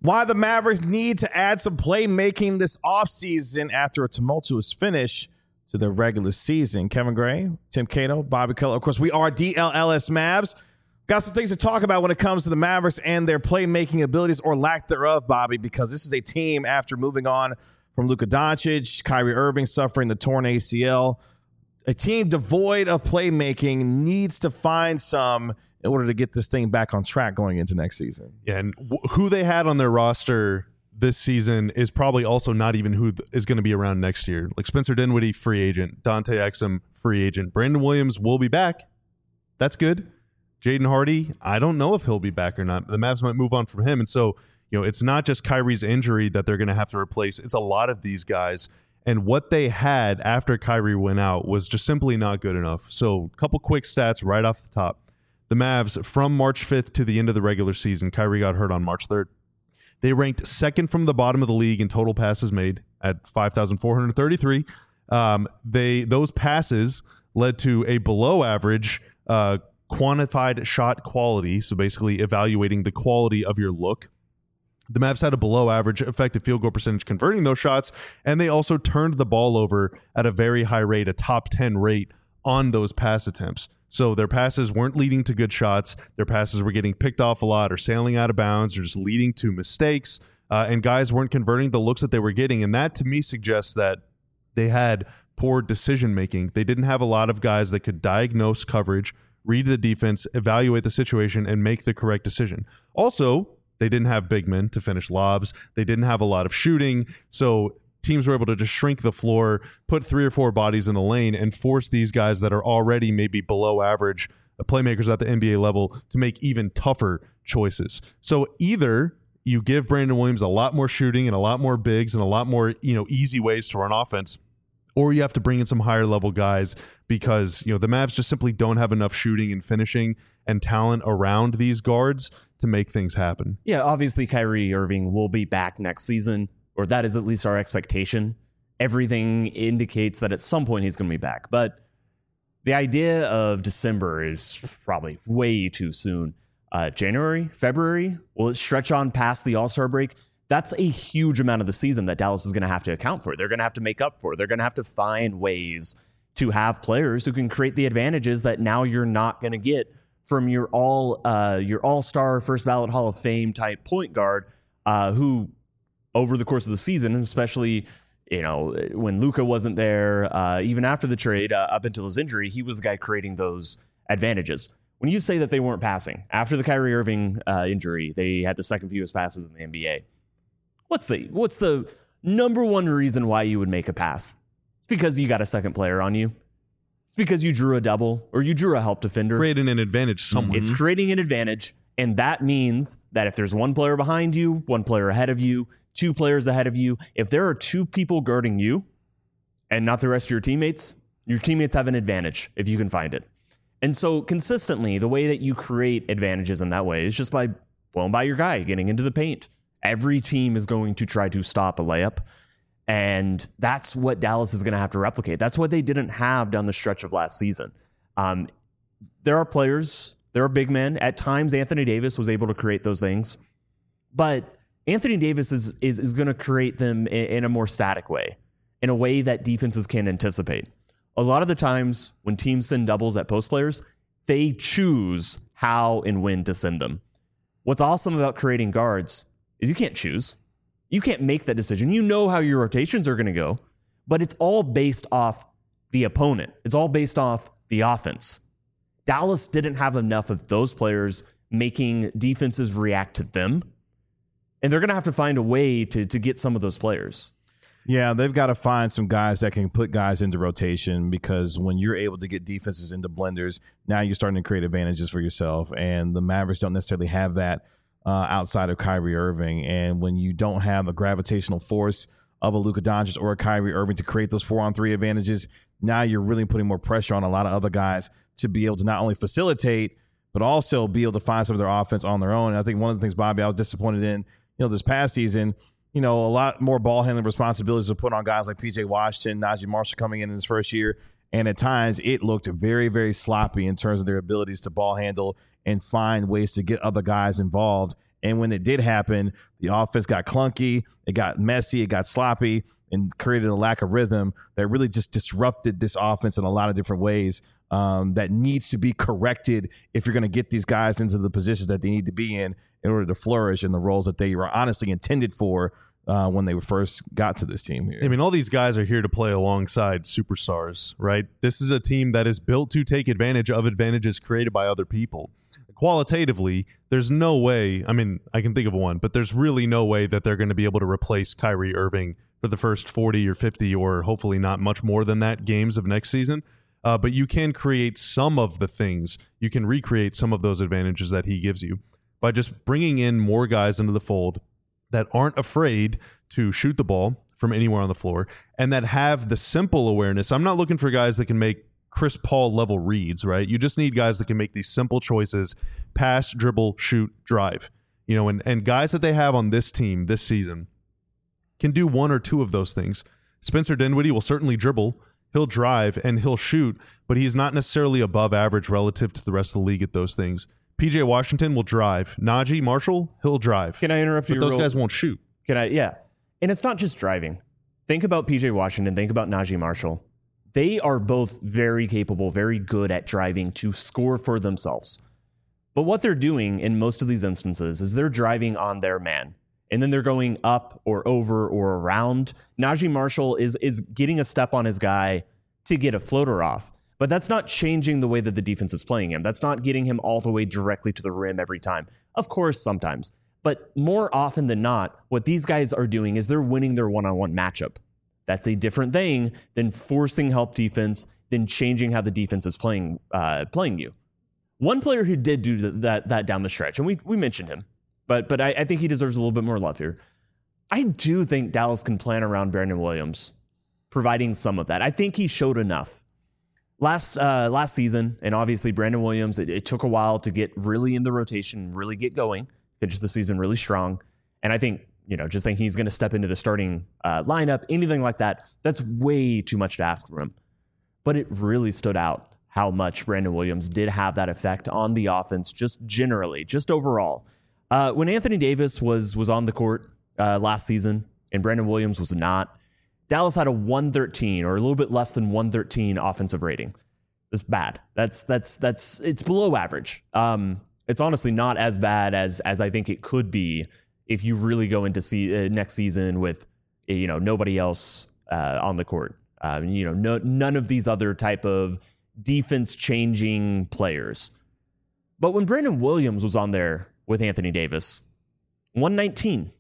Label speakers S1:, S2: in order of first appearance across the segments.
S1: Why the Mavericks need to add some playmaking this offseason after a tumultuous finish to their regular season. Kevin Gray, Tim Cato, Bobby Keller. Of course, we are DLLS Mavs. Got some things to talk about when it comes to the Mavericks and their playmaking abilities or lack thereof, Bobby, because this is a team after moving on from Luka Doncic, Kyrie Irving suffering the torn ACL. A team devoid of playmaking needs to find some in order to get this thing back on track going into next season.
S2: Yeah, and who they had on their roster this season is probably also not even who is going to be around next year. Like Spencer Dinwiddie, free agent. Dante Exum, free agent. Brandon Williams will be back. That's good. Jaden Hardy, I don't know if he'll be back or not. The Mavs might move on from him. And so, it's not just Kyrie's injury that they're going to have to replace. It's a lot of these guys. And what they had after Kyrie went out was just simply not good enough. So a couple quick stats right off the top. The Mavs, from March 5th to the end of the regular season, Kyrie got hurt on March 3rd. They ranked second from the bottom of the league in total passes made at 5,433. Those passes led to a below average quantified shot quality, so basically evaluating the quality of your look. The Mavs had a below average effective field goal percentage converting those shots, and they also turned the ball over at a very high rate, a top 10 rate on those pass attempts. So their passes weren't leading to good shots. Their passes were getting picked off a lot or sailing out of bounds or just leading to mistakes. And guys weren't converting the looks that they were getting. And that to me suggests that they had poor decision making. They didn't have a lot of guys that could diagnose coverage, read the defense, evaluate the situation, and make the correct decision. Also, they didn't have big men to finish lobs. They didn't have a lot of shooting. So teams were able to just shrink the floor, put 3 or 4 bodies in the lane, and force these guys that are already maybe below average playmakers at the NBA level to make even tougher choices. So either you give Brandon Williams a lot more shooting and a lot more bigs and a lot more, easy ways to run offense, or you have to bring in some higher level guys because, the Mavs just simply don't have enough shooting and finishing and talent around these guards to make things happen.
S3: Yeah, obviously Kyrie Irving will be back next season, or that is at least our expectation. Everything indicates that at some point he's going to be back. But the idea of December is probably way too soon. January, February, will it stretch on past the All-Star break? That's a huge amount of the season that Dallas is going to have to account for. They're going to have to make up for. They're going to have to find ways to have players who can create the advantages that now you're not going to get from your all-star, first ballot Hall of Fame type point guard who over the course of the season, and especially when Luka wasn't there, even after the trade, up until his injury, he was the guy creating those advantages. When you say that they weren't passing, after the Kyrie Irving injury, they had the second fewest passes in the NBA. What's the number one reason why you would make a pass? It's because you got a second player on you. It's because you drew a double or you drew a help defender.
S2: Creating an advantage somewhere.
S3: It's creating an advantage, and that means that if there's one player behind you, one player ahead of you, 2 players ahead of you, if there are 2 people guarding you and not the rest of your teammates have an advantage if you can find it. And so consistently, the way that you create advantages in that way is just by blowing by your guy, getting into the paint. Every team is going to try to stop a layup, and that's what Dallas is going to have to replicate. That's what they didn't have down the stretch of last season. There are players, there are big men. At times, Anthony Davis was able to create those things, but Anthony Davis is going to create them in a more static way, in a way that defenses can anticipate. A lot of the times when teams send doubles at post players, they choose how and when to send them. What's awesome about creating guards is you can't choose. You can't make that decision. You know how your rotations are going to go, but it's all based off the opponent. It's all based off the offense. Dallas didn't have enough of those players making defenses react to them, and they're going to have to find a way to get some of those players.
S1: Yeah, they've got to find some guys that can put guys into rotation, because when you're able to get defenses into blenders, now you're starting to create advantages for yourself. And the Mavericks don't necessarily have that outside of Kyrie Irving. And when you don't have a gravitational force of a Luka Doncic or a Kyrie Irving to create those 4-on-3 advantages, now you're really putting more pressure on a lot of other guys to be able to not only facilitate, but also be able to find some of their offense on their own. And I think one of the things, Bobby, I was disappointed in, this past season, a lot more ball handling responsibilities were put on guys like PJ Washington, Najee Marshall coming in his first year. And at times it looked very, very sloppy in terms of their abilities to ball handle and find ways to get other guys involved. And when it did happen, the offense got clunky, it got messy, it got sloppy, and created a lack of rhythm that really just disrupted this offense in a lot of different ways. That needs to be corrected if you're going to get these guys into the positions that they need to be in order to flourish in the roles that they were honestly intended for when they first got to this team here.
S2: I mean, all these guys are here to play alongside superstars, right? This is a team that is built to take advantage of advantages created by other people. Qualitatively, there's no way, I mean, I can think of one, but there's really no way that they're going to be able to replace Kyrie Irving for the first 40 or 50 or hopefully not much more than that games of next season. But you can create some of the things. You can recreate some of those advantages that he gives you by just bringing in more guys into the fold that aren't afraid to shoot the ball from anywhere on the floor and that have the simple awareness. I'm not looking for guys that can make Chris Paul level reads, right? You just need guys that can make these simple choices: pass, dribble, shoot, drive. You know, and guys that they have on this team this season can do one or two of those things. Spencer Dinwiddie will certainly dribble. He'll drive and he'll shoot, but he's not necessarily above average relative to the rest of the league at those things. PJ Washington will drive. Najee Marshall, he'll drive.
S3: Can I interrupt you?
S2: But those guys won't shoot.
S3: Can I? Yeah. And it's not just driving. Think about PJ Washington. Think about Najee Marshall. They are both very capable, very good at driving to score for themselves. But what they're doing in most of these instances is they're driving on their man. And then they're going up or over or around. Najee Marshall is getting a step on his guy to get a floater off. But that's not changing the way that the defense is playing him. That's not getting him all the way directly to the rim every time. Of course, sometimes. But more often than not, what these guys are doing is they're winning their one-on-one matchup. That's a different thing than forcing help defense, than changing how the defense is playing you. One player who did do that down the stretch, and we mentioned him, but I think he deserves a little bit more love here. I do think Dallas can plan around Brandon Williams, providing some of that. I think he showed enough. Last season, and obviously Brandon Williams, it took a while to get really in the rotation, really get going, finish the season really strong. And I think, just thinking he's going to step into the starting lineup, anything like that, that's way too much to ask from him. But it really stood out how much Brandon Williams did have that effect on the offense, just generally, just overall. When Anthony Davis was on the court last season and Brandon Williams was not, Dallas had a 113 or a little bit less than 113 offensive rating. That's bad. It's below average. It's honestly not as bad as I think it could be if you really go into next season with nobody else on the court. None of these other type of defense changing players. But when Brandon Williams was on there with Anthony Davis, 119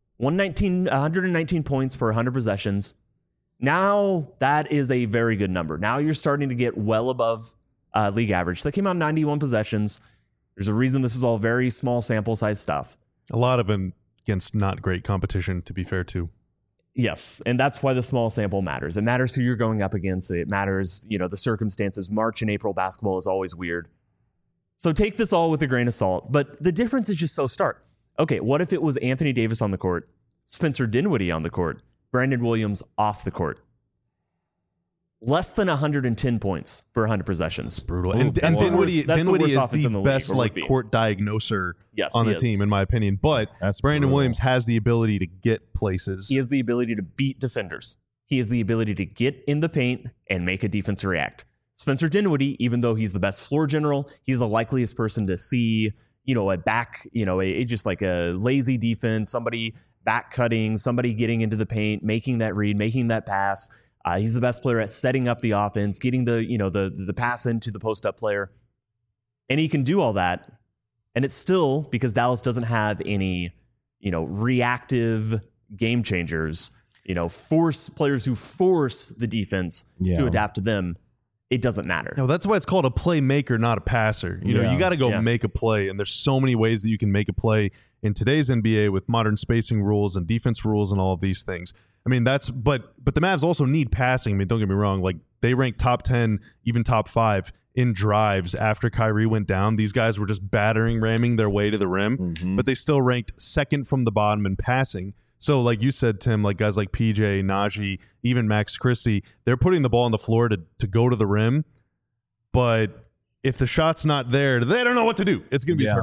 S3: points per 100 possessions. Now that is a very good number. Now you're starting to get well above league average. That came out 91 possessions. There's a reason this is all very small sample size stuff.
S2: A lot of them against not great competition, to be fair, too.
S3: Yes, and that's why the small sample matters. It matters who you're going up against. It matters, the circumstances. March and April basketball is always weird. So take this all with a grain of salt. But the difference is just so stark. Okay, what if it was Anthony Davis on the court, Spencer Dinwiddie on the court, Brandon Williams off the court? Less than 110 points per 100 possessions.
S2: Brutal. And Dinwiddie is the best court diagnoser on the team, in my opinion. But Brandon Williams has the ability to get places.
S3: He has the ability to beat defenders. He has the ability to get in the paint and make a defense react. Spencer Dinwiddie, even though he's the best floor general, he's the likeliest person to see, a back, just like a lazy defense, somebody back cutting, somebody getting into the paint, making that read, making that pass. He's the best player at setting up the offense, getting the pass into the post-up player. And he can do all that. And it's still, because Dallas doesn't have any, reactive game changers, force players who force the defense to adapt to them. It doesn't matter.
S2: No, that's why it's called a playmaker, not a passer. You got to go make a play. And there's so many ways that you can make a play in today's NBA with modern spacing rules and defense rules and all of these things. I mean, but the Mavs also need passing. I mean, don't get me wrong. Like, they ranked top 10, even top 5 in drives after Kyrie went down. These guys were just ramming their way to the rim, but they still ranked second from the bottom in passing. So like you said, Tim, like guys like PJ, Najee, even Max Christie, they're putting the ball on the floor to go to the rim. But if the shot's not there, they don't know what to do. It's going to be a turnover.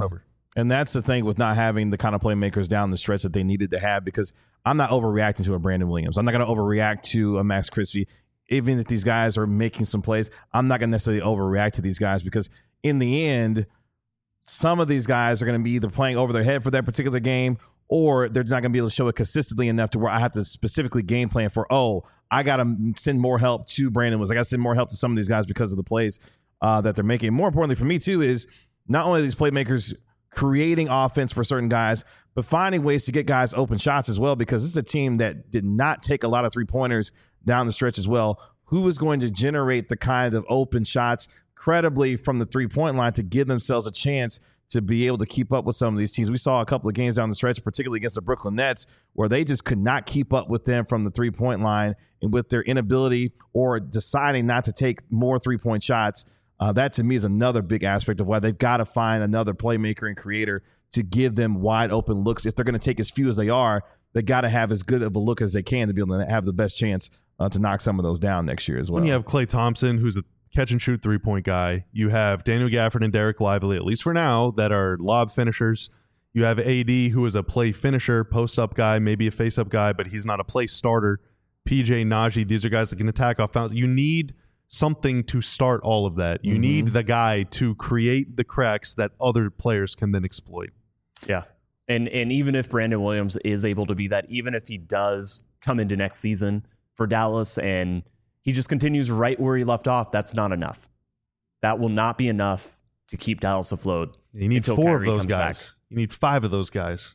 S1: And that's the thing with not having the kind of playmakers down the stretch that they needed to have, because I'm not overreacting to a Brandon Williams. I'm not going to overreact to a Max Christie. Even if these guys are making some plays, I'm not going to necessarily overreact to these guys, because in the end, some of these guys are going to be either playing over their head for that particular game, or they're not going to be able to show it consistently enough to where I have to specifically game plan for, I got to send more help to Brandon Williams. I got to send more help to some of these guys because of the plays that they're making. More importantly for me, too, is not only these playmakers creating offense for certain guys, but finding ways to get guys open shots as well, because this is a team that did not take a lot of three-pointers down the stretch as well. Who is going to generate the kind of open shots credibly from the three-point line to give themselves a chance to be able to keep up with some of these teams? We saw a couple of games down the stretch, particularly against the Brooklyn Nets, where they just could not keep up with them from the three-point line, and with their inability or deciding not to take more three-point shots. That, to me, is another big aspect of why they've got to find another playmaker and creator to give them wide open looks. If they're going to take as few as they are, they got to have as good of a look as they can to be able to have the best chance to knock some of those down next year as well.
S2: When you have Klay Thompson, who's a catch-and-shoot three-point guy, you have Daniel Gafford and Derek Lively, at least for now, that are lob finishers. You have AD, who is a play finisher, post-up guy, maybe a face-up guy, but he's not a play starter. PJ, Najee, these are guys that can attack off bounds. You need something to start all of that. You need the guy to create the cracks that other players can then exploit.
S3: Yeah. And even if Brandon Williams is able to be that, even if he does come into next season for Dallas and he just continues right where he left off, that's not enough. That will not be enough to keep Dallas afloat.
S2: You need 4 of those guys. Back. You need 5 of those guys.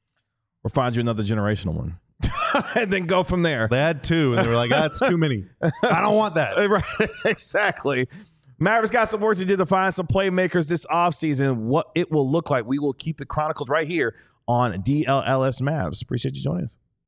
S1: Or find you another generational one. And then go from there.
S2: They had 2, and they were like, that's too many. I don't want that.
S1: Right, exactly. Mavericks got some work to do to find some playmakers this offseason. What it will look like, we will keep it chronicled right here on DLLS Mavs. Appreciate you joining us.